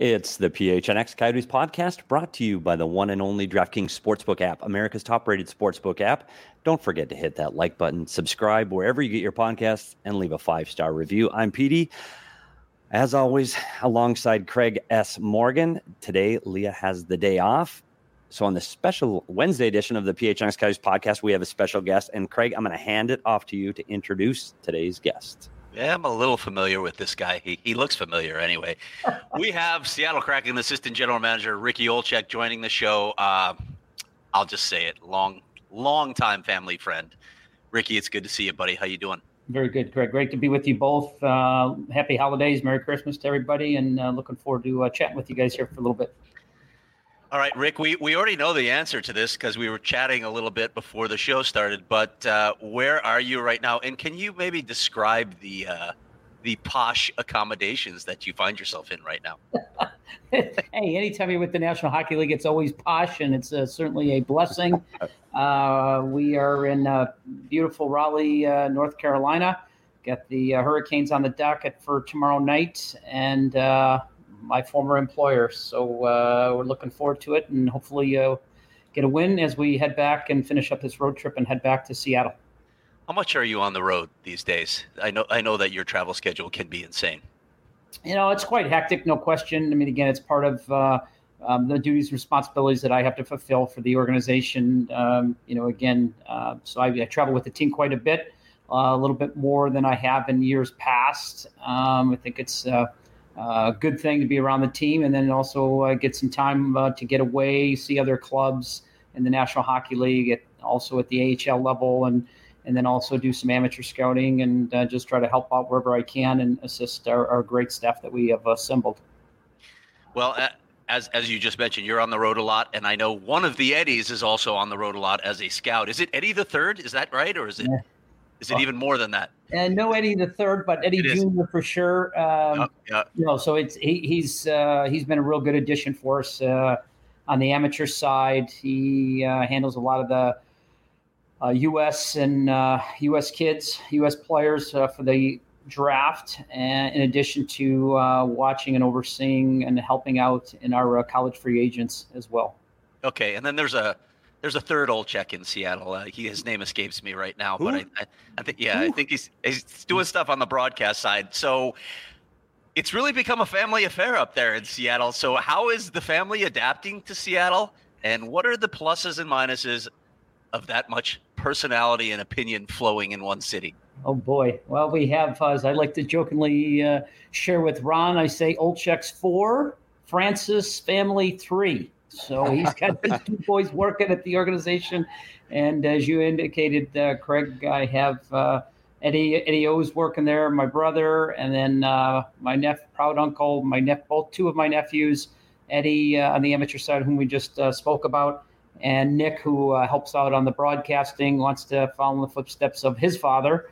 It's the PHNX Coyotes podcast brought to you by the one and only DraftKings Sportsbook app, America's top-rated sportsbook app. Don't forget to hit that like button, subscribe wherever you get your podcasts, and leave a 5-star review. I'm Petey, as always, alongside Craig S. Morgan. Today, Leah has the day off. So on the special Wednesday edition of the PHNX Coyotes podcast, we have a special guest. And Craig, I'm going to hand it off to you to introduce today's guest. Yeah, I'm a little familiar with this guy. He looks familiar anyway. We have Seattle Kraken assistant general manager Ricky Olczyk joining the show. I'll just say it, long time family friend. Ricky, it's good to see you, buddy. How you doing? Very good, Greg. Great to be with you both. Happy holidays, Merry Christmas to everybody, and looking forward to chatting with you guys here for a little bit. All right, Rick, we already know the answer to this because we were chatting a little bit before the show started, but where are you right now? And can you maybe describe the posh accommodations that you find yourself in right now? Hey, anytime you're with the National Hockey League, it's always posh, and it's certainly a blessing. We are in beautiful Raleigh, North Carolina. Got the Hurricanes on the docket for tomorrow night, and my former employer. So we're looking forward to it, and hopefully get a win as we head back and finish up this road trip and head back to Seattle. How much are you on the road these days? I know that your travel schedule can be insane. You know, it's quite hectic, no question. I mean, again, it's part of the duties and responsibilities that I have to fulfill for the organization. So I travel with the team quite a bit, a little bit more than I have in years past. I think it's a good thing to be around the team, and then also get some time to get away, see other clubs in the National Hockey League, also at the AHL level, and then also do some amateur scouting and just try to help out wherever I can and assist our great staff that we have assembled. Well, as you just mentioned, you're on the road a lot, and I know one of the Eddies is also on the road a lot as a scout. Is it Eddie the Third? Is that right, or is it? Yeah. Is it even more than that? And no Eddie the Third, but Eddie Jr. for sure. So he's been a real good addition for us on the amateur side. He handles a lot of the U.S. and U.S. kids, U.S. players for the draft, and in addition to watching and overseeing and helping out in our college free agents as well. Okay, and then there's a third Olczyk in Seattle. His name escapes me right now, but I think he's doing stuff on the broadcast side. So it's really become a family affair up there in Seattle. So how is the family adapting to Seattle, and what are the pluses and minuses of that much personality and opinion flowing in one city? Oh boy! Well, we have, as I like to jokingly share with Ron, I say Olczyk's 4, Francis family 3. So he's got his 2 boys working at the organization. And as you indicated, Craig, I have Eddie O's working there, my brother, and then my proud uncle, both 2 of my nephews, Eddie on the amateur side, whom we just spoke about, and Nick, who helps out on the broadcasting, wants to follow in the footsteps of his father.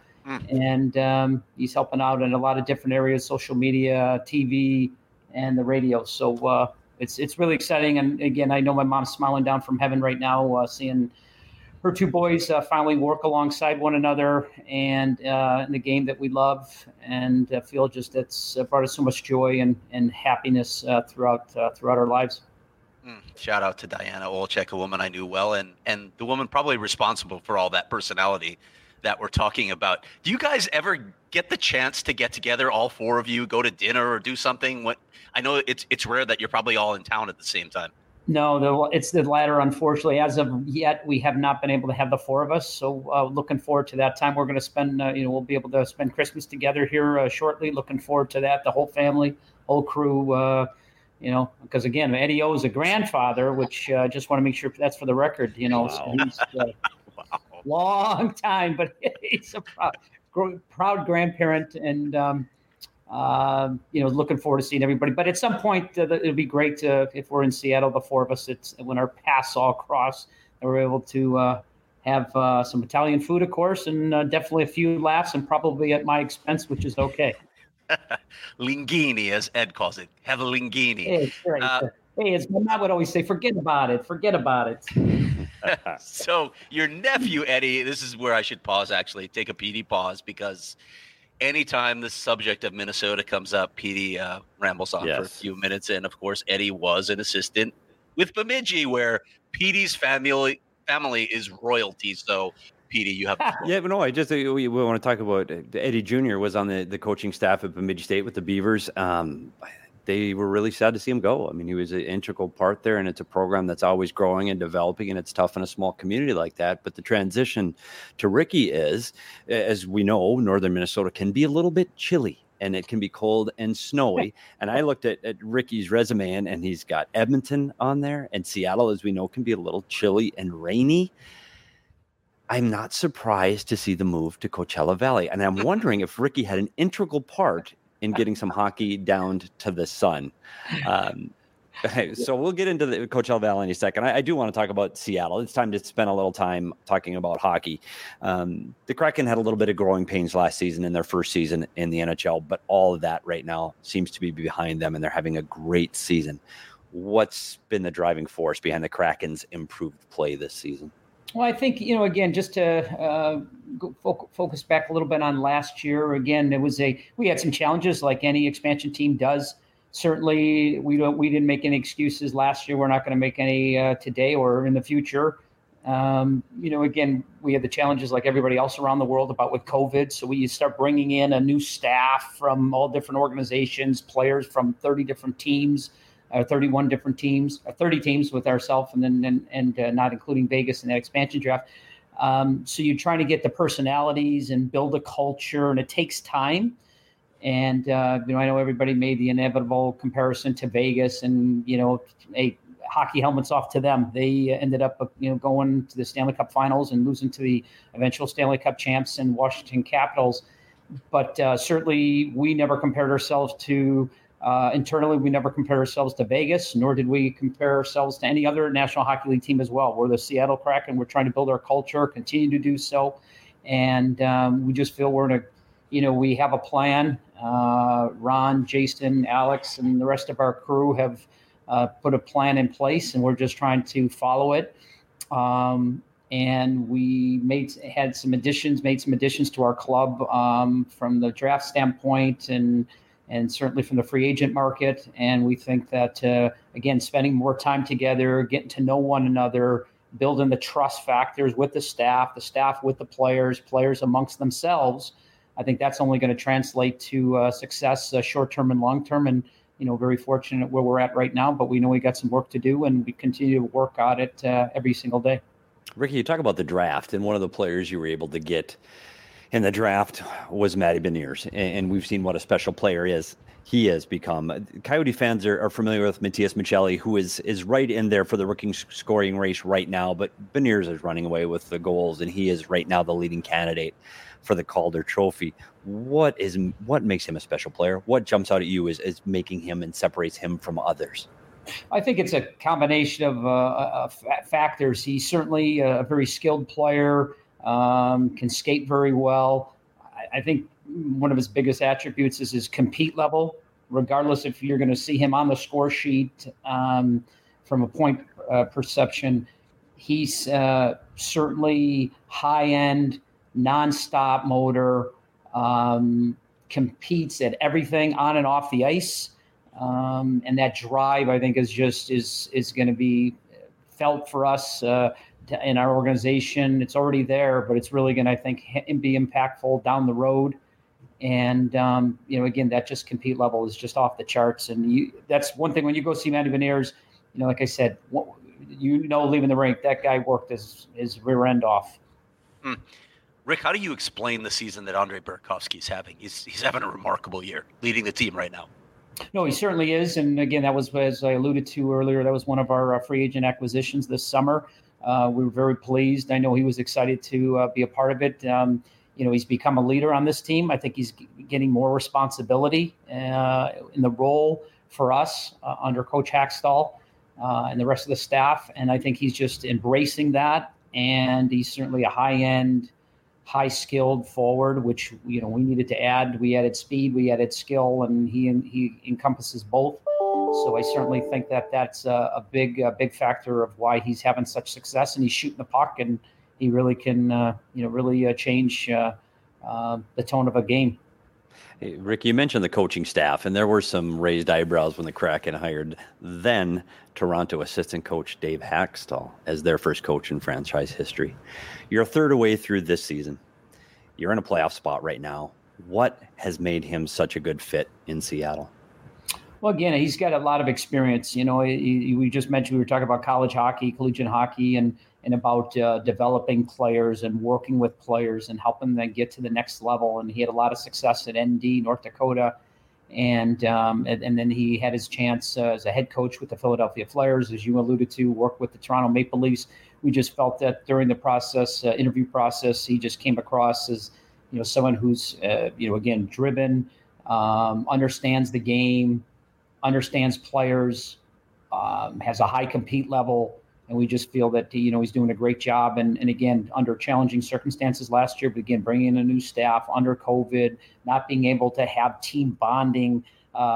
And he's helping out in a lot of different areas, social media, TV, and the radio. So it's really exciting. And again, I know my mom's smiling down from heaven right now, seeing her 2 boys finally work alongside one another and in the game that we love, and feel just it's brought us so much joy and happiness throughout our lives. Shout out to Diana Olczyk, a woman I knew well, and the woman probably responsible for all that personality that we're talking about. Do you guys ever get the chance to get together, all 4 of you, go to dinner or do something? I know it's rare that you're probably all in town at the same time. No, it's the latter, unfortunately. As of yet, we have not been able to have the 4 of us. So looking forward to that time. We're going to spend, we'll be able to spend Christmas together here shortly. Looking forward to that. The whole family, whole crew, because again, Eddie O is a grandfather, which just want to make sure that's for the record, Wow. So he's long time, but he's a proud grandparent, and looking forward to seeing everybody. But at some point, it'll be great if we're in Seattle, the 4 of us. It's when our paths all cross, and we're able to have some Italian food, of course, and definitely a few laughs, and probably at my expense, which is okay. Linguini, as Ed calls it. Have a linguini. Hey, right. As my mom would always say, forget about it. So your nephew, Eddie, this is where I should pause, actually, take a PD pause, because anytime the subject of Minnesota comes up, Petey rambles on for a few minutes. And of course, Eddie was an assistant with Bemidji, where Petey's family is royalty. So, Petey, you have yeah, but no, we want to talk about Eddie Jr. was on the coaching staff at Bemidji State with the Beavers. They were really sad to see him go. I mean, he was an integral part there, and it's a program that's always growing and developing, and it's tough in a small community like that. But the transition to Ricky is, as we know, northern Minnesota can be a little bit chilly, and it can be cold and snowy. And I looked at Ricky's resume, and he's got Edmonton on there, and Seattle, as we know, can be a little chilly and rainy. I'm not surprised to see the move to Coachella Valley, and I'm wondering if Ricky had an integral part in getting some hockey down to the sun. So we'll get into the Coachella Valley in a second. I do want to talk about Seattle. It's time to spend a little time talking about hockey. The Kraken had a little bit of growing pains last season in their first season in the NHL, but all of that right now seems to be behind them, and they're having a great season. What's been the driving force behind the Kraken's improved play this season? Well, I think, again, just to focus back a little bit on last year, again, we had some challenges like any expansion team does. Certainly, we didn't make any excuses last year. We're not going to make any today or in the future. Again, we had the challenges like everybody else around the world with COVID. So we start bringing in a new staff from all different organizations, players from 30 different teams. 31 different teams, 30 teams with ourselves, and not including Vegas in that expansion draft. So you're trying to get the personalities and build a culture, and it takes time. And I know everybody made the inevitable comparison to Vegas, and hockey helmets off to them. They ended up going to the Stanley Cup Finals and losing to the eventual Stanley Cup champs and Washington Capitals. But certainly, we never compared ourselves to. Internally, we never compared ourselves to Vegas, nor did we compare ourselves to any other National Hockey League team as well. We're the Seattle Kraken. We're trying to build our culture, continue to do so. And we just feel we have a plan. Ron, Jason, Alex, and the rest of our crew have put a plan in place, and we're just trying to follow it. And we made some additions to our club from the draft standpoint and certainly from the free agent market. And we think that, again, spending more time together, getting to know one another, building the trust factors with the staff with the players amongst themselves, I think that's only going to translate to success short-term and long-term. And, very fortunate where we're at right now, but we know we got some work to do, and we continue to work on it every single day. Ricky, you talk about the draft, and one of the players you were able to get in the draft was Matty Beniers, and we've seen what a special player he has become. Coyote fans are familiar with Matias Maccelli, who is right in there for the rookie scoring race right now, but Beniers is running away with the goals, and he is right now the leading candidate for the Calder Trophy. What makes him a special player? What jumps out at you as making him and separates him from others? I think it's a combination of factors. He's certainly a very skilled player. Can skate very well. I think one of his biggest attributes is his compete level, regardless if you're going to see him on the score sheet from a point perception. He's certainly high-end, nonstop motor, competes at everything on and off the ice. And that drive, I think, is going to be felt for us in our organization. It's already there, but it's really going to, I think, be impactful down the road. And, again, that just compete level is just off the charts. And that's one thing when you go see Matty Beniers, like I said, leaving the rink, that guy worked his rear end off. Rick, how do you explain the season that Andrei Burakovsky's having? He's having a remarkable year, leading the team right now. No, he certainly is. And again, that was, as I alluded to earlier, that was one of our free agent acquisitions this summer. We were very pleased. I know he was excited to be a part of it. He's become a leader on this team. I think he's getting more responsibility in the role for us under Coach Hackstall and the rest of the staff. And I think he's just embracing that. And he's certainly a high-end, high-skilled forward, which we needed to add. We added speed, we added skill, and he encompasses both. So I certainly think that's a big factor of why he's having such success, and he's shooting the puck, and he really can really change the tone of a game. Hey, Rick, you mentioned the coaching staff, and there were some raised eyebrows when the Kraken hired then Toronto assistant coach Dave Haxtell as their first coach in franchise history. You're a third away through this season. You're in a playoff spot right now. What has made him such a good fit in Seattle? Well, again, he's got a lot of experience. We just mentioned, we were talking about college hockey, collegiate hockey, and about developing players and working with players and helping them get to the next level. And he had a lot of success at ND, North Dakota. And then he had his chance as a head coach with the Philadelphia Flyers, as you alluded to, work with the Toronto Maple Leafs. We just felt that during the process, interview process, he just came across as, someone who's, again, driven, understands the game, understands players, has a high compete level. And we just feel that, he's doing a great job. And again, under challenging circumstances last year, but again, bringing in a new staff under COVID, not being able to have team bonding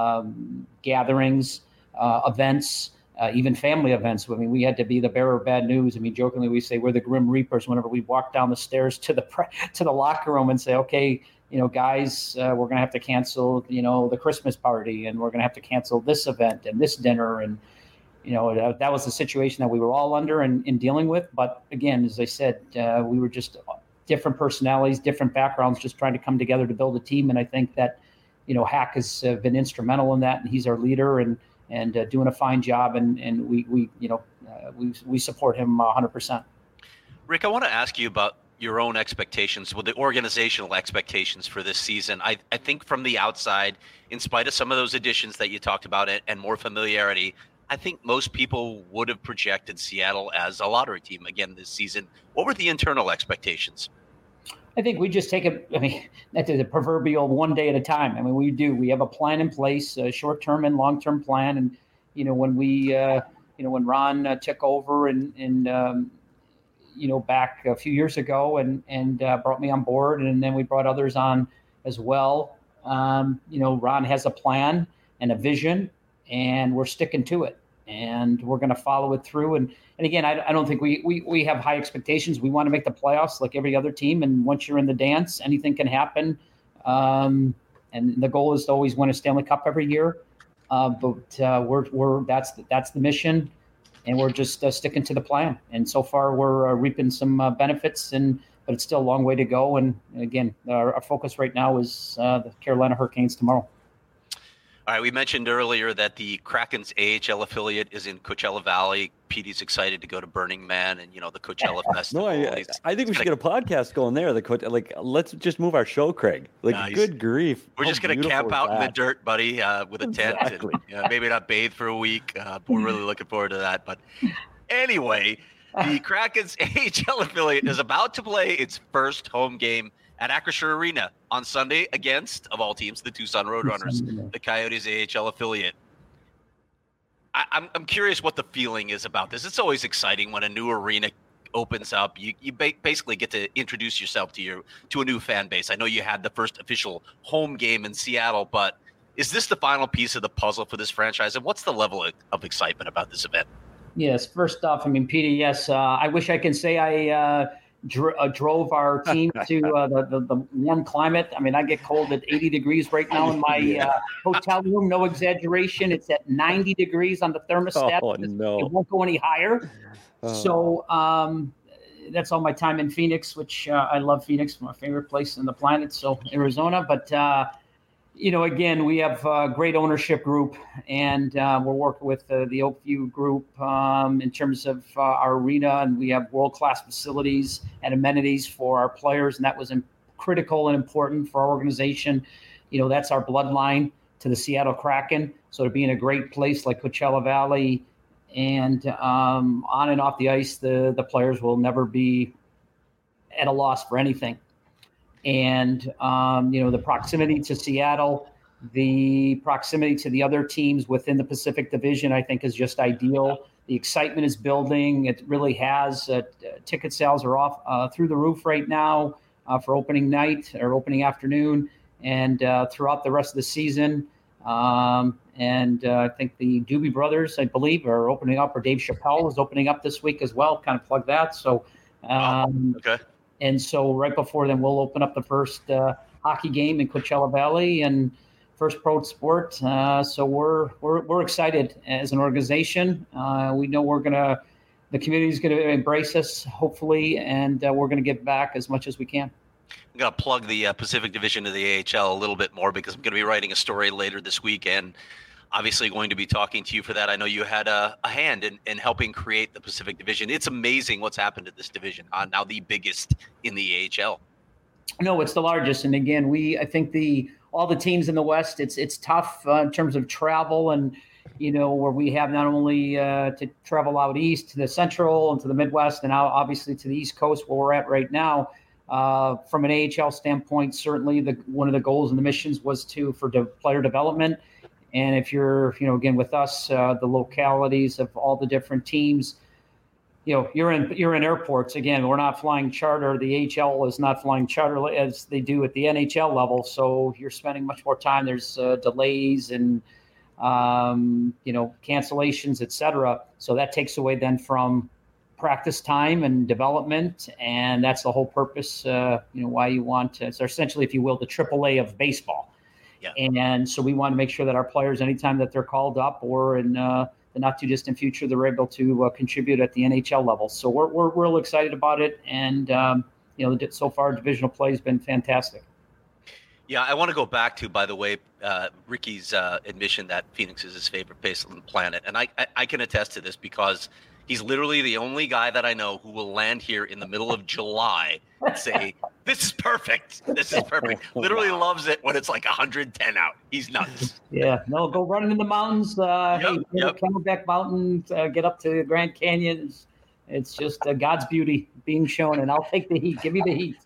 gatherings, events, even family events. I mean, we had to be the bearer of bad news. I mean, jokingly, we say we're the Grim Reapers whenever we walk down the stairs to the locker room and say, okay, guys, we're going to have to cancel, the Christmas party, and we're going to have to cancel this event and this dinner. And, that was the situation that we were all under and dealing with. But again, as I said, we were just different personalities, different backgrounds, just trying to come together to build a team. And I think that, Hack has been instrumental in that, and he's our leader and doing a fine job. And we support him 100%. Rick, I want to ask you about your own expectations, the organizational expectations for this season. I think from the outside, in spite of some of those additions that you talked about and more familiarity, I think most people would have projected Seattle as a lottery team again this season. What were the internal expectations? I think we just take it, that's the proverbial one day at a time. I mean, we do. We have a plan in place, a short-term and long-term plan. And, when when Ron took over and back a few years ago and brought me on board, and then we brought others on as well. Ron has a plan and a vision, and we're sticking to it, and we're going to follow it through. And again, I don't think we have high expectations. We want to make the playoffs like every other team. And once you're in the dance, anything can happen. And the goal is to always win a Stanley Cup every year. But that's the mission, and we're just sticking to the plan. And so far we're reaping some benefits, but it's still a long way to go. And again, our focus right now is the Carolina Hurricanes tomorrow. All right, we mentioned earlier that the Kraken's AHL affiliate is in Coachella Valley. Petey's excited to go to Burning Man and, the Coachella Festival. No, I think we should get a podcast going there. Let's just move our show, Craig. Good grief. We're just going to camp out in the dirt, buddy, with a tent. Exactly. And maybe not bathe for a week. We're really looking forward to that. But anyway, the Kraken's AHL affiliate is about to play its first home game at Acrisure Arena on Sunday against, of all teams, the Tucson Roadrunners, the Coyotes AHL affiliate. I'm curious what the feeling is about this. It's always exciting when a new arena opens up. You basically get to introduce yourself to a new fan base. I know you had the first official home game in Seattle, but is this the final piece of the puzzle for this franchise? And what's the level of excitement about this event? Yes, first off, Petey, yes, I wish I can say I drove our team to the warm climate. I get cold at 80 degrees right now in my hotel room. No exaggeration. It's at 90 degrees on the thermostat. Oh, no. It won't go any higher. So that's all my time in Phoenix, which I love Phoenix, my favorite place on the planet. So Arizona. But, again, we have a great ownership group, and we're working with the Oakview group in terms of our arena, and we have world-class facilities and amenities for our players, and that was critical and important for our organization. That's our bloodline to the Seattle Kraken. So to be in a great place like Coachella Valley and on and off the ice, the players will never be at a loss for anything. And, the proximity to Seattle, the proximity to the other teams within the Pacific Division, I think is just ideal. The excitement is building. It really has. Ticket sales are off through the roof right now for opening night or opening afternoon and throughout the rest of the season. And I think the Doobie Brothers, I believe, are opening up, or Dave Chappelle is opening up this week as well. Kind of plug that. So, okay. And so right before then, we'll open up the first hockey game in Coachella Valley and first pro sport. So we're excited as an organization. We know the community is going to embrace us, hopefully, and we're going to give back as much as we can. I'm going to plug the Pacific Division of the AHL a little bit more because I'm going to be writing a story later this week and obviously going to be talking to you for that. I know you had a hand in helping create the Pacific Division. It's amazing what's happened to this division, now the biggest in the AHL. No, it's the largest. And again, I think all the teams in the West, it's tough in terms of travel and, where we have not only to travel out east to the Central and to the Midwest and now obviously to the East Coast where we're at right now. From an AHL standpoint, certainly one of the goals and the missions was for player development. And if you're, again, with us, the localities of all the different teams, you're in airports. Again, we're not flying charter. The AHL is not flying charter as they do at the NHL level. So you're spending much more time. There's delays and, cancellations, et cetera. So that takes away then from practice time and development. And that's the whole purpose, why you want to. So essentially, if you will, the AAA of baseball. Yeah. And so we want to make sure that our players, anytime that they're called up or in the not too distant future, they're able to contribute at the NHL level. So we're real excited about it. And, so far divisional play has been fantastic. Yeah, I want to go back to, by the way, Ricky's admission that Phoenix is his favorite place on the planet. And I can attest to this because he's literally the only guy that I know who will land here in the middle of July and say, this is perfect. This is perfect. Literally loves it when it's like 110 out. He's nuts. Yeah. No, go running in the mountains. Camelback Mountain, get up to the Grand Canyon. It's just God's beauty being shown, and I'll take the heat. Give me the heat.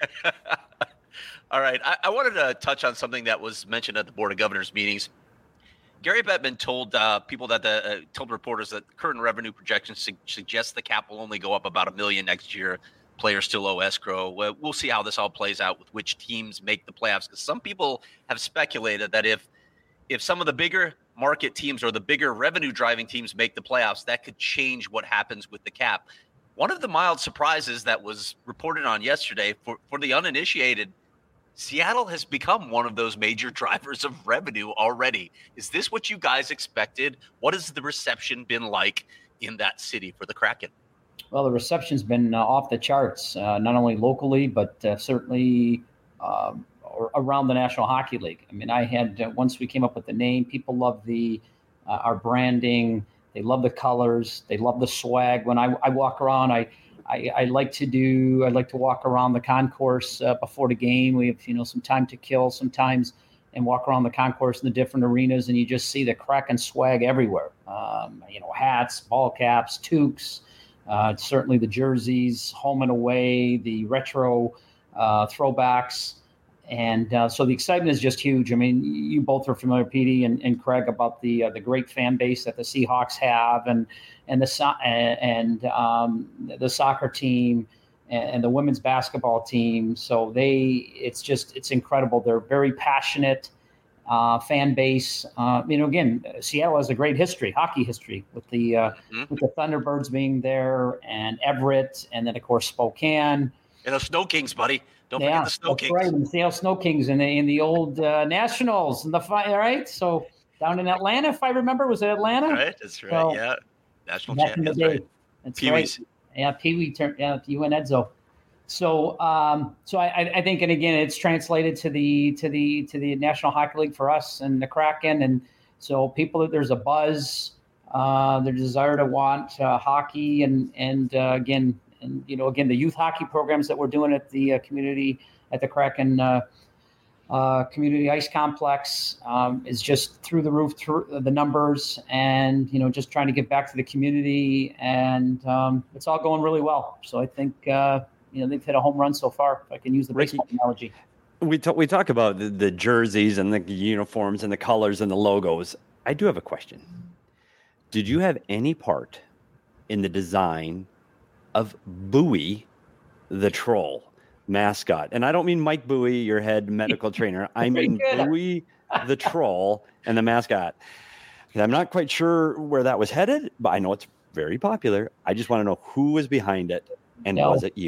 All right. I wanted to touch on something that was mentioned at the Board of Governors meetings. Gary Bettman told told reporters that current revenue projections suggest the cap will only go up about $1 million next year. Players still owe escrow. We'll see how this all plays out with which teams make the playoffs. Because some people have speculated that if some of the bigger market teams or the bigger revenue driving teams make the playoffs, that could change what happens with the cap. One of the mild surprises that was reported on yesterday for the uninitiated, Seattle has become one of those major drivers of revenue already. Is this what you guys expected? What has the reception been like in that city for the Kraken? Well, the reception's been off the charts, not only locally, but certainly around the National Hockey League. I mean, I had, once we came up with the name, people love our branding. They love the colors. They love the swag. When I walk around, I like to walk around the concourse before the game. We have, some time to kill sometimes and walk around the concourse in the different arenas, and you just see the Kraken swag everywhere. Hats, ball caps, toques, certainly the jerseys, home and away, the retro throwbacks. And so the excitement is just huge. I mean, you both are familiar, Petey and Craig, about the great fan base that the Seahawks have, and the soccer team and the women's basketball team. So it's incredible. They're very passionate fan base. Again, Seattle has a great hockey history with the Thunderbirds being there, and Everett, and then of course Spokane. And the Snow Kings, buddy. Don't forget the Snow Kings. Right, and the Seattle Snow Kings in the old Nationals and right. So down in Atlanta, if I remember, was it Atlanta? Right, that's right. So, yeah, national champions. Right. That's Pee-wees. Right. Yeah, Pee-wee turned. Yeah, you and Edzo. So I think, and again, it's translated to the National Hockey League for us and the Kraken, and so there's a buzz, their desire to want hockey, and again. And, again, the youth hockey programs that we're doing at the Kraken Community Ice Complex is just through the roof, through the numbers, and, just trying to get back to the community. And it's all going really well. So I think, they've hit a home run so far, if I can use the baseball analogy. We talk about the jerseys and the uniforms and the colors and the logos. I do have a question. Did you have any part in the design of Bowie, the troll mascot? And I don't mean Mike Bowie, your head medical trainer. I mean Bowie, the troll, and the mascot. And I'm not quite sure where that was headed, but I know it's very popular. I just want to know who was behind it, and was it you?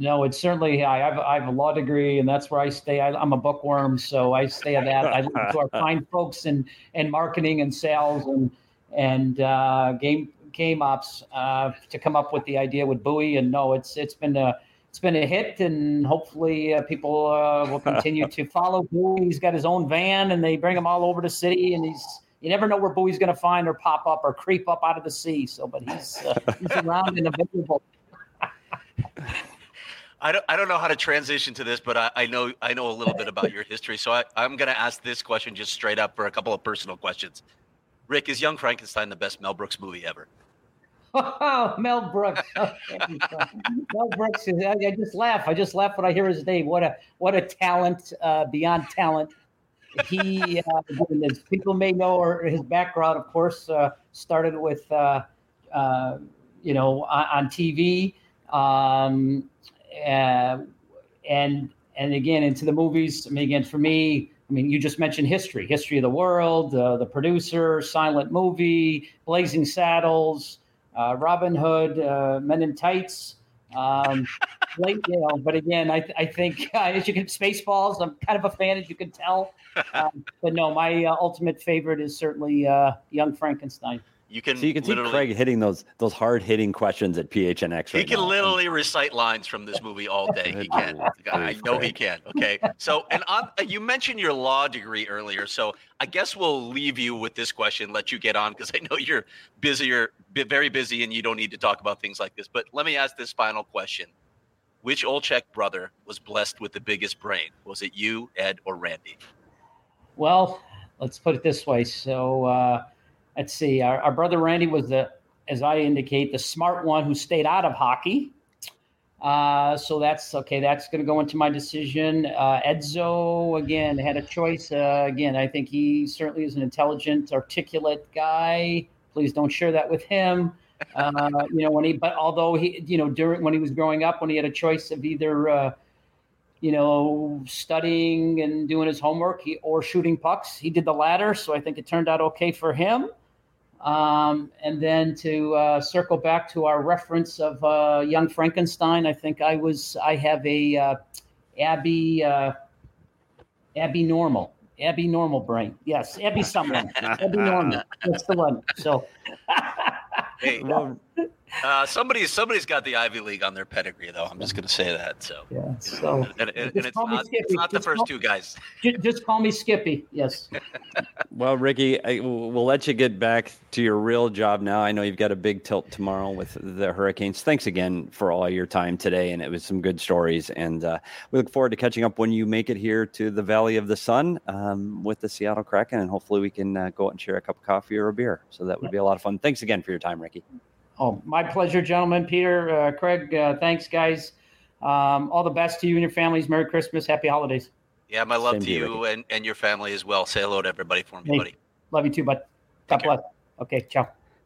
No, it's certainly. I have a law degree, and that's where I stay. I'm a bookworm, so I stay at that. I listen to our fine folks in marketing and sales and game ops to come up with the idea with Bowie. And no, it's been a hit, and hopefully people will continue to follow Bowie. He's got his own van, and they bring him all over the city, and you never know where Bowie's going to find or pop up or creep up out of the sea. So, but he's around and available. I don't know how to transition to this, but I know a little bit about your history. So I'm going to ask this question just straight up for a couple of personal questions. Rick, is Young Frankenstein the best Mel Brooks movie ever? Oh, Mel Brooks. Mel Brooks. I just laugh. I just laugh when I hear his name. What a talent beyond talent. He, as people may know, or his background, of course, started with, on TV. And again, into the movies. I mean, again, for me, you just mentioned History of the World, The Producer, silent movie, Blazing Saddles, Robin Hood, Men in Tights. But again, I think as you can, Spaceballs. I'm kind of a fan, as you can tell. But no, my ultimate favorite is certainly Young Frankenstein. You can see Craig hitting those hard hitting questions at PHNX. He can literally recite lines from this movie all day. He can. I know he can. Okay. So, and you mentioned your law degree earlier. So I guess we'll leave you with this question, let you get on, because I know you're very busy, and you don't need to talk about things like this. But let me ask this final question. Which Olczyk brother was blessed with the biggest brain? Was it you, Ed, or Randy? Well, let's put it this way. So, let's see. Our brother Randy was as I indicate, the smart one who stayed out of hockey. So that's okay. That's going to go into my decision. Edzo, again, had a choice. Again, I think he certainly is an intelligent, articulate guy. Please don't share that with him. But although he, when he was growing up, when he had a choice of either, studying and doing his homework or shooting pucks, he did the latter. So I think it turned out okay for him. And then to circle back to our reference of Young Frankenstein, I think I have a Abby Normal brain. Yes, Abby someone. Abby Normal. That's the one. So. Hey, somebody's got the Ivy League on their pedigree, though. I'm just going to say that. So, yeah. So, and it's not the first two guys. Just call me Skippy. Yes. Well, Ricky, we'll let you get back to your real job now. I know you've got a big tilt tomorrow with the Hurricanes. Thanks again for all your time today, and it was some good stories. And we look forward to catching up when you make it here to the Valley of the Sun with the Seattle Kraken, and hopefully we can go out and share a cup of coffee or a beer. So that would be a lot of fun. Thanks again for your time, Ricky. Oh, my pleasure, gentlemen. Peter, Craig, thanks, guys. All the best to you and your families. Merry Christmas. Happy holidays. Yeah, my love to you and your family as well. Say hello to everybody for me, buddy. Love you too, bud. God bless. Okay, ciao.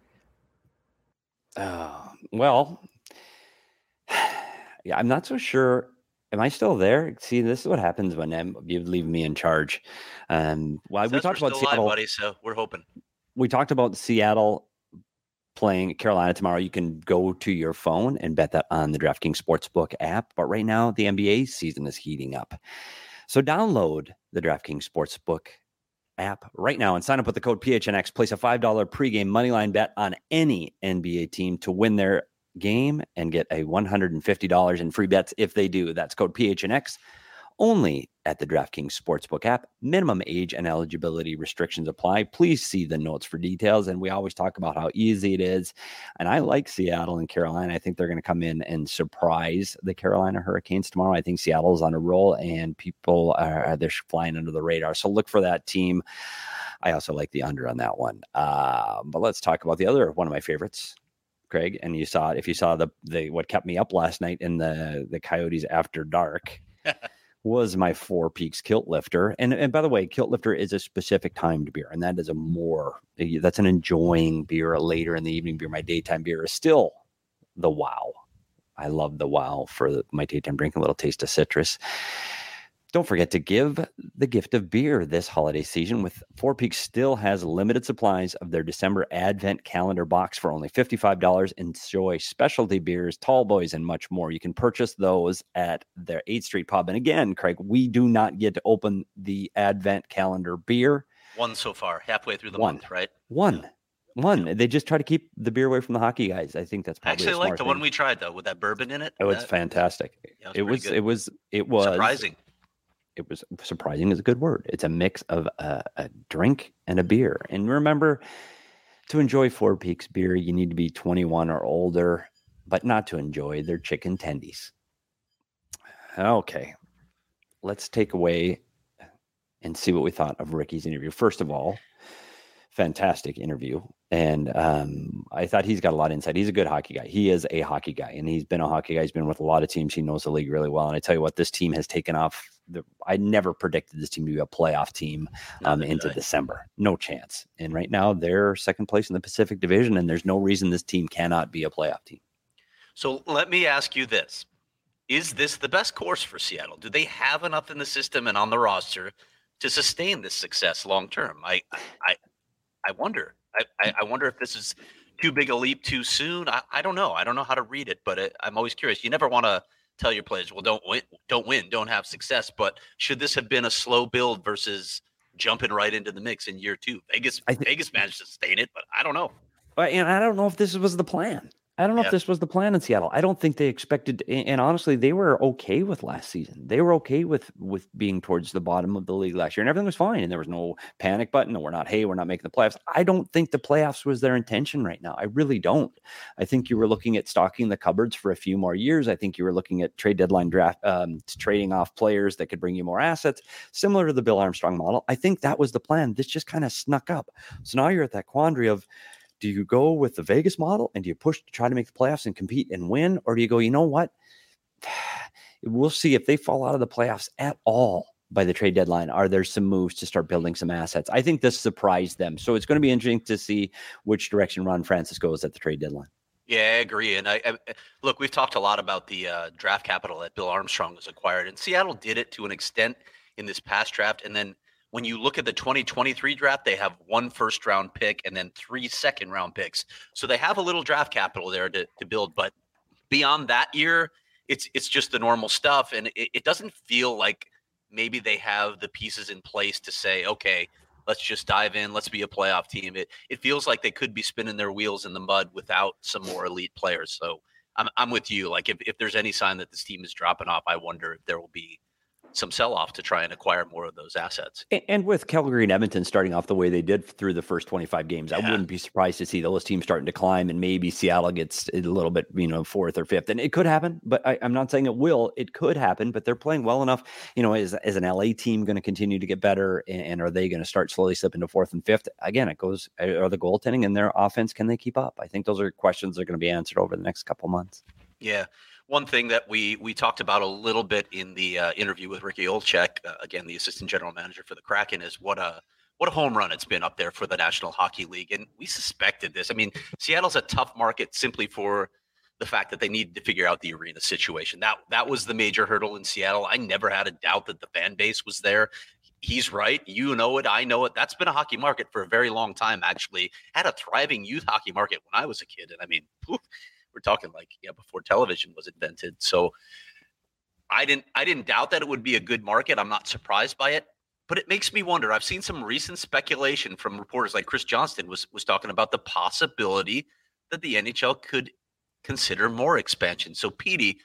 Well, yeah, I'm not so sure. Am I still there? See, this is what happens when you leave me in charge. We talked about Seattle, alive, buddy, so we're hoping. We talked about Seattle playing Carolina tomorrow. You can go to your phone and bet that on the DraftKings Sportsbook app. But right now, the NBA season is heating up. So download the DraftKings Sportsbook app right now and sign up with the code PHNX. Place a $5 pregame moneyline bet on any NBA team to win their game and get a $150 in free bets if they do. That's code PHNX. Only at the DraftKings Sportsbook app. Minimum age and eligibility restrictions apply. Please see the notes for details. And we always talk about how easy it is. And I like Seattle and Carolina. I think they're going to come in and surprise the Carolina Hurricanes tomorrow. I think Seattle's on a roll and people they're flying under the radar. So look for that team. I also like the under on that one. But let's talk about the other one of my favorites, Craig. And if you saw the what kept me up last night in the Coyotes After Dark. Was my Four Peaks Kilt Lifter. And by the way, Kilt Lifter is a specific timed beer, and that is that's an enjoying beer, a later in the evening beer. My daytime beer is still the Wow. I love the Wow for my daytime drink, a little taste of citrus. Don't forget to give the gift of beer this holiday season. With Four Peaks still has limited supplies of their December Advent calendar box for only $55. Enjoy specialty beers, tall boys, and much more. You can purchase those at their 8th Street Pub. And again, Craig, we do not get to open the Advent calendar beer. One so far, halfway through the month, right? One. They just try to keep the beer away from the hockey guys. I think that's probably I actually like the one we tried though, with that bourbon in it. Oh, it's fantastic. Yeah, it was surprising. It was surprising is a good word. It's a mix of a drink and a beer. And remember, to enjoy Four Peaks beer, you need to be 21 or older, but not to enjoy their chicken tendies. Okay, let's take away and see what we thought of Ricky's interview. First of all, fantastic interview. And I thought he's got a lot of insight. He's a good hockey guy. He is a hockey guy, and he's been a hockey guy. He's been with a lot of teams. He knows the league really well. And I tell you what, this team has taken off. I never predicted this team to be a playoff team into December. No chance. And right now they're second place in the Pacific Division, and there's no reason this team cannot be a playoff team. So let me ask you this. Is this the best course for Seattle? Do they have enough in the system and on the roster to sustain this success long term? I wonder. I wonder if this is too big a leap too soon. I don't know. I don't know how to read it, but I'm always curious. You never want to tell your players, well, don't win, don't have success. But should this have been a slow build versus jumping right into the mix in year two? Vegas managed to sustain it, but I don't know. And I don't know if this was the plan. I don't know if this was the plan in Seattle. I don't think they expected, and honestly, they were okay with last season. They were okay with being towards the bottom of the league last year, and everything was fine. And there was no panic button. No, we're not making the playoffs. I don't think the playoffs was their intention right now. I really don't. I think you were looking at stocking the cupboards for a few more years. I think you were looking at trade deadline draft, trading off players that could bring you more assets, similar to the Bill Armstrong model. I think that was the plan. This just kind of snuck up. So now you're at that quandary of, do you go with the Vegas model and do you push to try to make the playoffs and compete and win? Or do you go, you know what? We'll see if they fall out of the playoffs at all by the trade deadline. Are there some moves to start building some assets? I think this surprised them. So it's going to be interesting to see which direction Ron Francis goes at the trade deadline. Yeah, I agree. And I look, we've talked a lot about the draft capital that Bill Armstrong was acquired, and Seattle did it to an extent in this past draft. And then when you look at the 2023 draft, they have 1 first-round pick and then 3 second-round picks. So they have a little draft capital there to build. But beyond that year, it's just the normal stuff. And it doesn't feel like maybe they have the pieces in place to say, okay, let's just dive in. Let's be a playoff team. It feels like they could be spinning their wheels in the mud without some more elite players. So I'm with you. Like if there's any sign that this team is dropping off, I wonder if there will be some sell-off to try and acquire more of those assets. And with Calgary and Edmonton starting off the way they did through the first 25 games, I wouldn't be surprised to see those teams starting to climb, and maybe Seattle gets a little bit, 4th or 5th. And it could happen, but I'm not saying it will. It could happen, but they're playing well enough. Is an LA team going to continue to get better, and are they going to start slowly slip into 4th and 5th? Again, it goes, are the goaltending and their offense, can they keep up? I think those are questions that are going to be answered over the next couple months. Yeah. One thing that we talked about a little bit in the interview with Ricky Olczyk, again, the assistant general manager for the Kraken, is what a home run it's been up there for the National Hockey League. And we suspected this. I mean, Seattle's a tough market simply for the fact that they needed to figure out the arena situation. That was the major hurdle in Seattle. I never had a doubt that the fan base was there. He's right. You know it. I know it. That's been a hockey market for a very long time, actually. Had a thriving youth hockey market when I was a kid. And I mean, we're talking before television was invented. So I didn't doubt that it would be a good market. I'm not surprised by it, but it makes me wonder. I've seen some recent speculation from reporters like Chris Johnston was talking about the possibility that the NHL could consider more expansion. So Petey,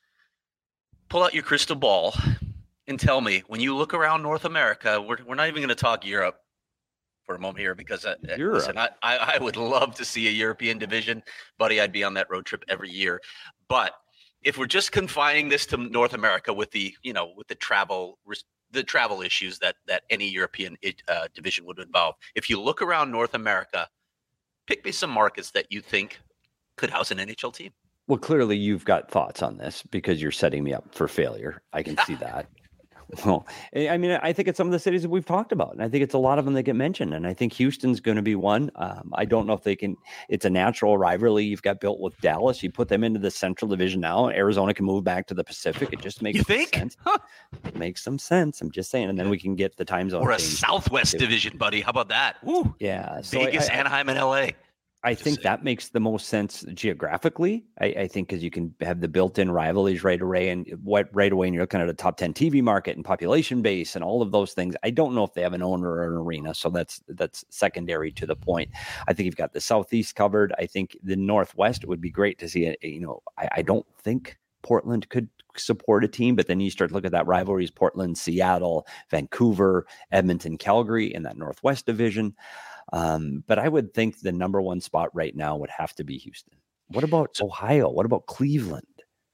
pull out your crystal ball and tell me, when you look around North America, we're not even going to talk Europe for a moment here, because listen, I would love to see a European division, buddy. I'd be on that road trip every year. But if we're just confining this to North America with the travel issues that any European division would involve, if you look around North America, pick me some markets that you think could house an NHL team. Well, clearly you've got thoughts on this because you're setting me up for failure. I can see that. Well, I mean, I think it's some of the cities that we've talked about, and I think it's a lot of them that get mentioned. And I think Houston's going to be one. I don't know if they can. It's a natural rivalry you've got built with Dallas. You put them into the Central Division now, and Arizona can move back to the Pacific. It just makes sense. Huh. It makes some sense. I'm just saying, and then we can get the time zone. Or a Southwest Division, buddy. How about that? Woo. Yeah, so Vegas, Anaheim, and LA. I think that makes the most sense geographically. I think because you can have the built-in rivalries right away, and you're looking at a top 10 TV market and population base and all of those things. I don't know if they have an owner or an arena, so that's secondary to the point. I think you've got the Southeast covered. I think the Northwest, it would be great to see it. I don't think Portland could support a team, but then you start to look at that rivalries: Portland, Seattle, Vancouver, Edmonton, Calgary in that Northwest division. But I would think the number one spot right now would have to be Houston. What about Ohio? What about Cleveland?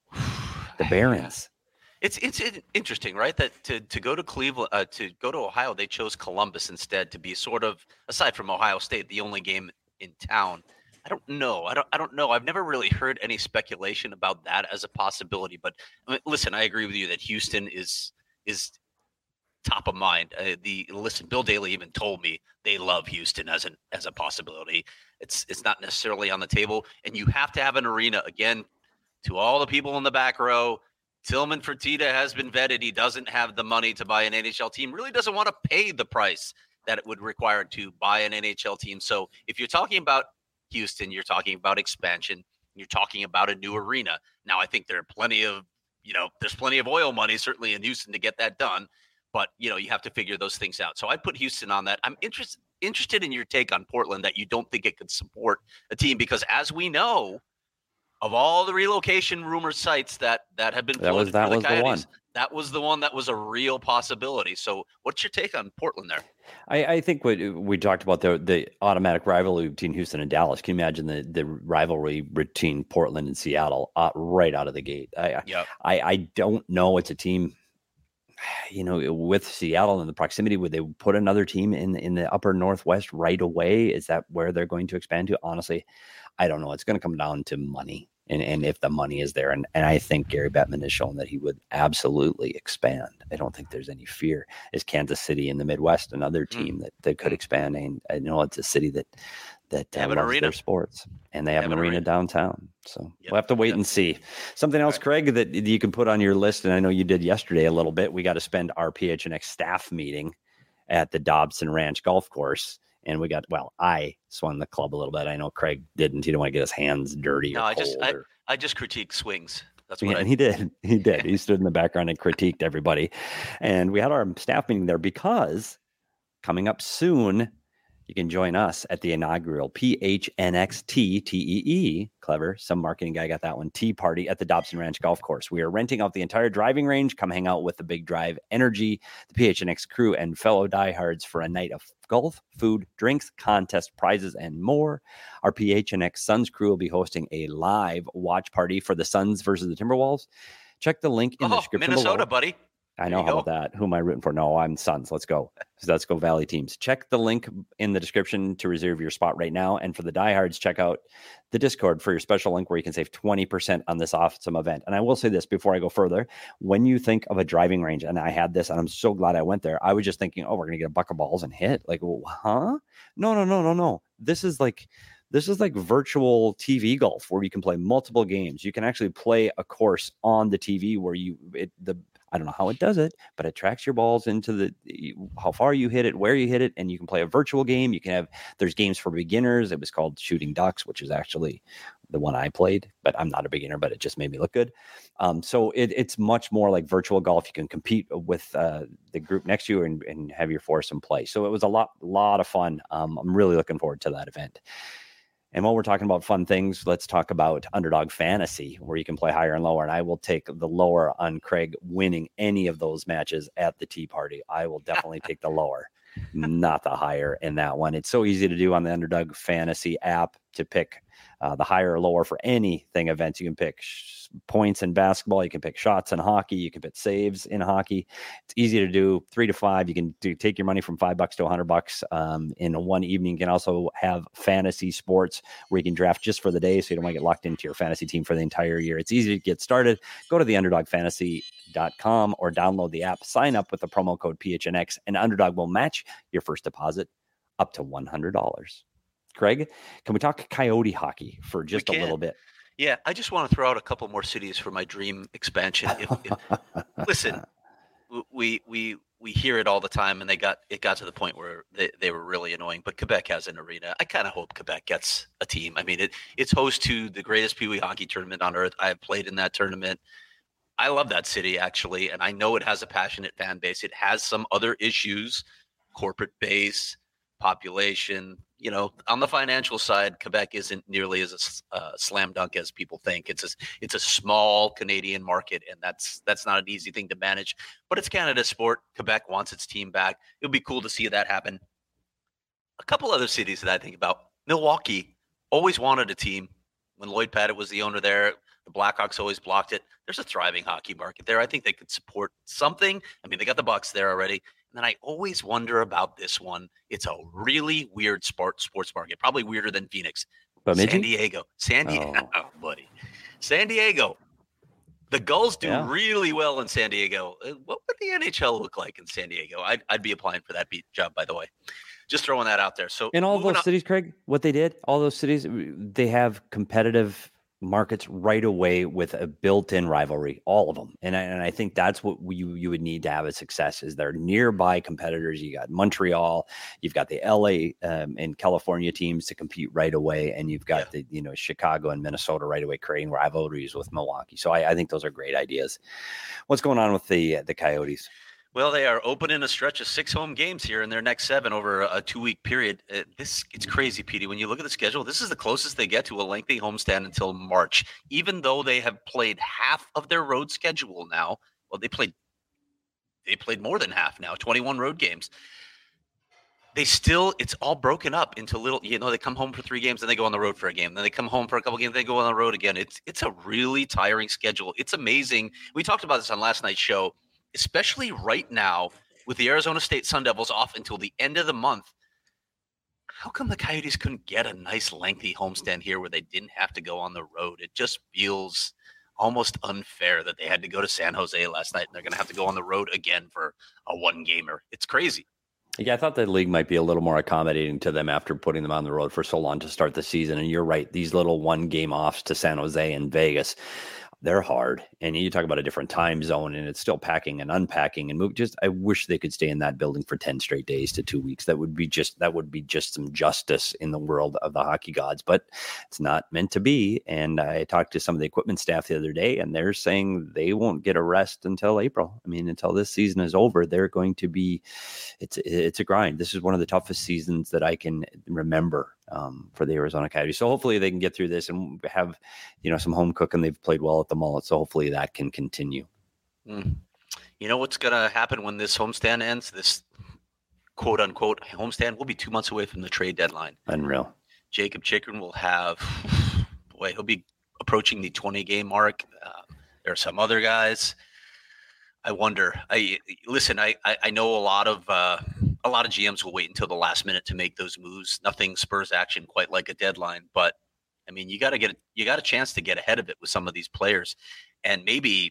The Barons. It's interesting, right? That to go to Cleveland, to go to Ohio, they chose Columbus instead to be sort of, aside from Ohio State, the only game in town. I don't know. I don't know. I've never really heard any speculation about that as a possibility. But listen, I agree with you that Houston is top of mind. Bill Daly even told me they love Houston as a possibility. It's not necessarily on the table, and you have to have an arena. Again, to all the people in the back row, Tillman Fertitta has been vetted. He doesn't have the money to buy an NHL team. Really doesn't want to pay the price that it would require to buy an NHL team. So if you're talking about Houston, you're talking about expansion. You're talking about a new arena. Now, I think there are there's plenty of oil money certainly in Houston to get that done. But, you have to figure those things out. So I put Houston on that. I'm interested in your take on Portland, that you don't think it could support a team, because as we know, of all the relocation rumor sites that have been floated for the Coyotes, that was the one that was a real possibility. So what's your take on Portland there? I think what we talked about, the automatic rivalry between Houston and Dallas. Can you imagine the rivalry between Portland and Seattle right out of the gate? I don't know. It's a team, with Seattle and the proximity, would they put another team in the upper Northwest right away? Is that where they're going to expand to? Honestly, I don't know. It's going to come down to money, and if the money is there. And I think Gary Bettman has shown that he would absolutely expand. I don't think there's any fear. Is Kansas City in the Midwest another team that could expand? And I know it's a city that have an arena, their sports, and they have an arena downtown. So we'll have to wait and see. Something else, Craig, that you can put on your list, and I know you did yesterday a little bit. We got to spend our PHNX staff meeting at the Dobson Ranch Golf Course, and I swung the club a little bit. I know Craig didn't. He didn't want to get his hands dirty. No, I just critiqued swings. That's what he did. He did. He stood in the background and critiqued everybody, and we had our staff meeting there because coming up soon, you can join us at the inaugural PHNX TEE, clever, some marketing guy got that one, tea party at the Dobson Ranch Golf Course. We are renting out the entire driving range. Come hang out with the Big Drive Energy, the PHNX crew, and fellow diehards for a night of golf, food, drinks, contest, prizes, and more. Our PHNX Suns crew will be hosting a live watch party for the Suns versus the Timberwolves. Check the link in the description Minnesota, below. Buddy. I know. How about that? Who am I rooting for? No, I'm Suns. Let's go. Let's go Valley teams. Check the link in the description to reserve your spot right now. And for the diehards, check out the Discord for your special link where you can save 20% on this awesome event. And I will say this before I go further. When you think of a driving range, and I had this, and I'm so glad I went there, I was just thinking, we're going to get a bucket of balls and hit. Like, huh? No. This is like virtual TV golf where you can play multiple games. You can actually play a course on the TV where I don't know how it does it, but it tracks your balls into how far you hit it, where you hit it, and you can play a virtual game. There's games for beginners. It was called Shooting Ducks, which is actually the one I played, but I'm not a beginner, but it just made me look good. So it's much more like virtual golf. You can compete with the group next to you and have your foursome play. So it was a lot of fun. I'm really looking forward to that event. And while we're talking about fun things, let's talk about Underdog Fantasy, where you can play higher and lower. And I will take the lower on Craig winning any of those matches at the tea party. I will definitely take the lower, not the higher in that one. It's so easy to do on the Underdog Fantasy app to pick the higher or lower for anything events. You can pick points in basketball. You can pick shots in hockey. You can pick saves in hockey. It's easy to do. 3 to 5. You can take your money from $5 to $100 in one evening. You can also have fantasy sports where you can draft just for the day, so you don't want to get locked into your fantasy team for the entire year. It's easy to get started. Go to the Underdog Fantasy underdog.com or download the app. Sign up with the promo code PHNX, and Underdog will match your first deposit up to $100. Craig, can we talk Coyote hockey for just a little bit? Yeah, I just want to throw out a couple more cities for my dream expansion. Listen, we hear it all the time, and it got to the point where they were really annoying. But Quebec has an arena. I kind of hope Quebec gets a team. I mean, it's host to the greatest Pee Wee hockey tournament on earth. I have played in that tournament. I love that city, actually, and I know it has a passionate fan base. It has some other issues, corporate base, population. You know, on the financial side, Quebec isn't nearly as a slam dunk as people think. It's a small Canadian market, and that's not an easy thing to manage. But it's Canada's sport. Quebec wants its team back. It would be cool to see that happen. A couple other cities that I think about. Milwaukee always wanted a team. When Lloyd Pettit was the owner there, the Blackhawks always blocked it. There's a thriving hockey market there. I think they could support something. I mean, they got the Bucks there already. And then I always wonder about this one. It's a really weird sports market, probably weirder than Phoenix. San Diego. Oh, buddy. San Diego. The Gulls do really well in San Diego. What would the NHL look like in San Diego? I'd be applying for that job, by the way. Just throwing that out there. So in all those cities, Craig, what they did, all those cities, they have competitive markets right away with a built-in rivalry, all of them. And I think that's what you would need to have a success is they're nearby competitors. You got Montreal, you've got the LA and California teams to compete right away. And you've got the, Chicago and Minnesota right away, creating rivalries with Milwaukee. So I think those are great ideas. What's going on with the Coyotes? Well, they are opening a stretch of 6 home games here in their next 7 over a 2-week period. It's crazy, Petey. When you look at the schedule, this is the closest they get to a lengthy homestand until March, even though they have played half of their road schedule now. Well, they played more than half now, 21 road games. It's all broken up into little, they come home for 3 games, then they go on the road for a game. Then they come home for a couple games, they go on the road again. It's a really tiring schedule. It's amazing. We talked about this on last night's show. Especially right now with the Arizona State Sun Devils off until the end of the month. How come the Coyotes couldn't get a nice lengthy homestand here where they didn't have to go on the road? It just feels almost unfair that they had to go to San Jose last night and they're going to have to go on the road again for a 1-gamer. It's crazy. Yeah, I thought the league might be a little more accommodating to them after putting them on the road for so long to start the season. And you're right, these little 1-game offs to San Jose and Vegas, they're hard. And you talk about a different time zone and it's still packing and unpacking and move. I wish they could stay in that building for 10 straight days to 2 weeks. That would be just some justice in the world of the hockey gods, but it's not meant to be. And I talked to some of the equipment staff the other day and they're saying they won't get a rest until April. I mean, until this season is over, they're going to be, it's a grind. This is one of the toughest seasons that I can remember for the Arizona Coyotes. So hopefully they can get through this and have, some home cooking. They've played well at the Mullet. So hopefully that can continue. You know what's going to happen when this homestand ends? This quote unquote homestand will be 2 months away from the trade deadline. Unreal. Jacob Chychrun will have, he'll be approaching the 20-game mark. There are some other guys. I wonder. I know a lot of GMs will wait until the last minute to make those moves. Nothing spurs action quite like a deadline, but I mean, you got a chance to get ahead of it with some of these players and maybe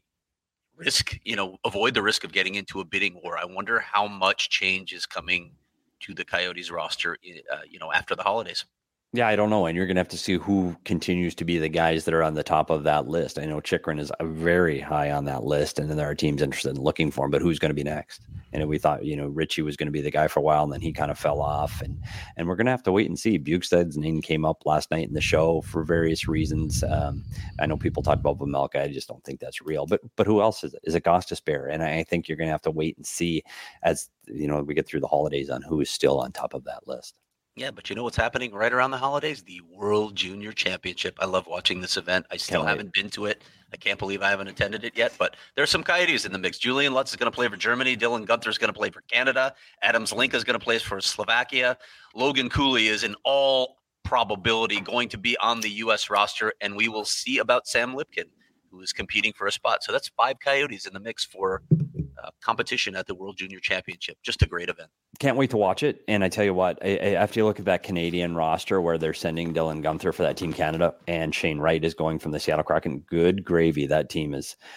avoid the risk of getting into a bidding war. I wonder how much change is coming to the Coyotes roster, after the holidays. Yeah, I don't know. And you're going to have to see who continues to be the guys that are on the top of that list. I know Chychrun is very high on that list, and then there are teams interested in looking for him, but who's going to be next? And we thought, Ritchie was going to be the guy for a while, and then he kind of fell off. And we're going to have to wait and see. Bukestad's name came up last night in the show for various reasons. I know people talk about Vejmelka. I just don't think that's real. But who else is it? Is it Gostisbehere? And I think you're going to have to wait and see as, we get through the holidays on who is still on top of that list. Yeah, but you know what's happening right around the holidays? The World Junior Championship. I love watching this event. I still haven't been to it. I can't believe I haven't attended it yet, but there's some Coyotes in the mix. Julian Lutz is going to play for Germany. Dylan Gunther is going to play for Canada. Adam Zlinka is going to play for Slovakia. Logan Cooley is in all probability going to be on the U.S. roster, and we will see about Sam Lipkin, who is competing for a spot. So that's 5 Coyotes in the mix for competition at the World Junior Championship. Just a great event. Can't wait to watch it. And I tell you what, after you look at that Canadian roster where they're sending Dylan Gunther for that Team Canada and Shane Wright is going from the Seattle Kraken, good gravy. That team is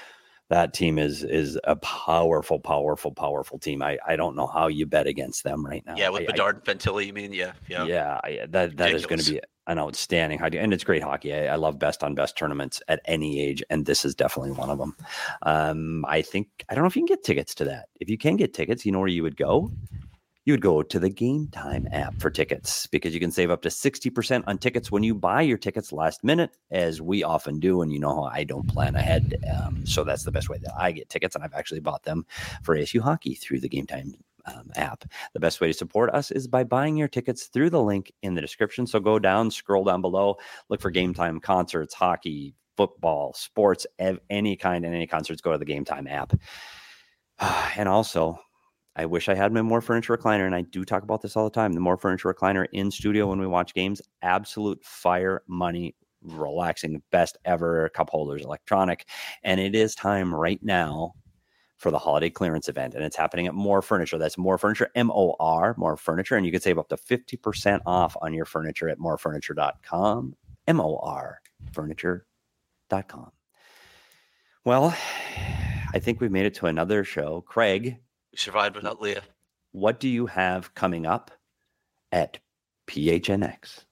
That team is a powerful team. I don't know how you bet against them right now. Yeah, with Bedard and Fantilli, you mean? Yeah. That is going to be an outstanding hockey, and it's great hockey. I love best on best tournaments at any age, and this is definitely one of them. I don't know if you can get tickets to that. If you can get tickets, you know where you would go? You would go to the Game Time app for tickets, because you can save up to 60% on tickets when you buy your tickets last minute, as we often do. And you know how I don't plan ahead. So that's the best way that I get tickets. And I've actually bought them for ASU hockey through the Game Time app. The best way to support us is by buying your tickets through the link in the description. So go down, scroll down below, look for Game Time concerts, hockey, football, sports, any kind, and any concerts. Go to the Game Time app. And also, I wish I had my More Furniture recliner, and I do talk about this all the time. The More Furniture recliner in studio when we watch games, absolute fire money, relaxing, best ever, cup holders, electronic. And it is time right now for the holiday clearance event, and it's happening at More Furniture. That's More Furniture, M-O-R, More Furniture, and you can save up to 50% off on your furniture at morefurniture.com, M-O-R, furniture.com. Well, I think we've made it to another show. Craig, we survived without Leah. What do you have coming up at PHNX?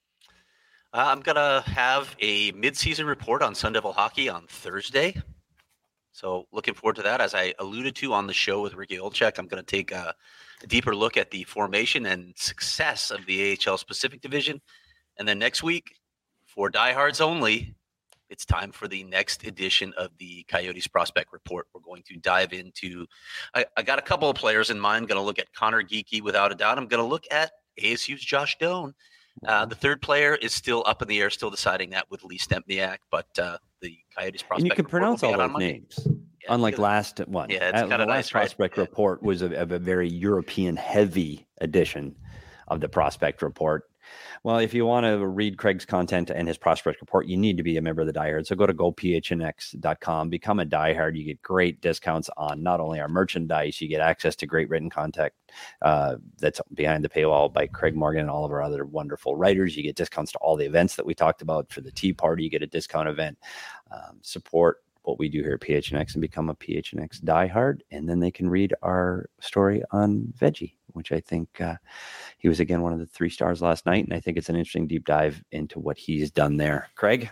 I'm going to have a mid-season report on Sun Devil hockey on Thursday. So looking forward to that. As I alluded to on the show with Ricky Olczyk, I'm going to take a deeper look at the formation and success of the AHL Pacific Division. And then next week, for diehards only, it's time for the next edition of the Coyotes Prospect Report. We're going to dive into I got a couple of players in mind. Going to look at Connor Geekie without a doubt. I'm going to look at ASU's Josh Doan. The third player is still up in the air, still deciding that with Lee Stempniak, but the Coyotes Prospect. And you can pronounce all those names, unlike last one. Yeah, it's kind of the nice. Last Prospect Report was a very European-heavy edition of the Prospect Report. Well, if you want to read Craig's content and his Prospect Report, you need to be a member of the Diehard. So go to gophnx.com, become a Diehard. You get great discounts on not only our merchandise, you get access to great written content that's behind the paywall by Craig Morgan and all of our other wonderful writers. You get discounts to all the events that we talked about. For the Tea Party, you get a discount event. Support what we do here at PHNX and become a PHNX Diehard. And then they can read our story on Veggie, which I think he was, again, one of the 3 stars last night. And I think it's an interesting deep dive into what he's done there. Craig,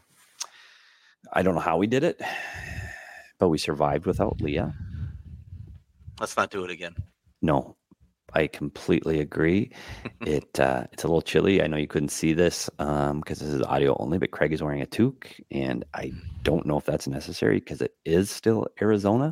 I don't know how we did it, but we survived without Leah. Let's not do it again. No, I completely agree. It's a little chilly. I know you couldn't see this because this is audio only, but Craig is wearing a toque, and I don't know if that's necessary because it is still Arizona.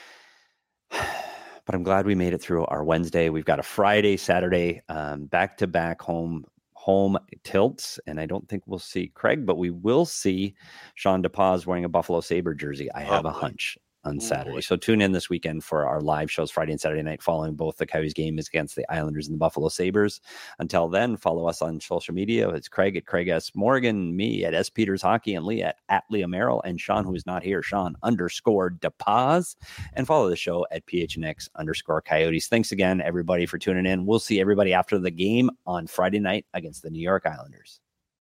But I'm glad we made it through our Wednesday. We've got a Friday, Saturday, back-to-back home tilts, and I don't think we'll see Craig, but we will see Sean DePaz wearing a Buffalo Sabre jersey. I have a hunch on Saturday. So tune in this weekend for our live shows Friday and Saturday night following both the Coyotes games against the Islanders and the Buffalo Sabres. Until then, follow us on social media. It's Craig at Craig S. Morgan, me at S. Peters Hockey, and Lee at Leah Merrill, and Sean, who is not here, Sean_DePaz. And follow the show at PHNX_Coyotes. Thanks again, everybody, for tuning in. We'll see everybody after the game on Friday night against the New York Islanders.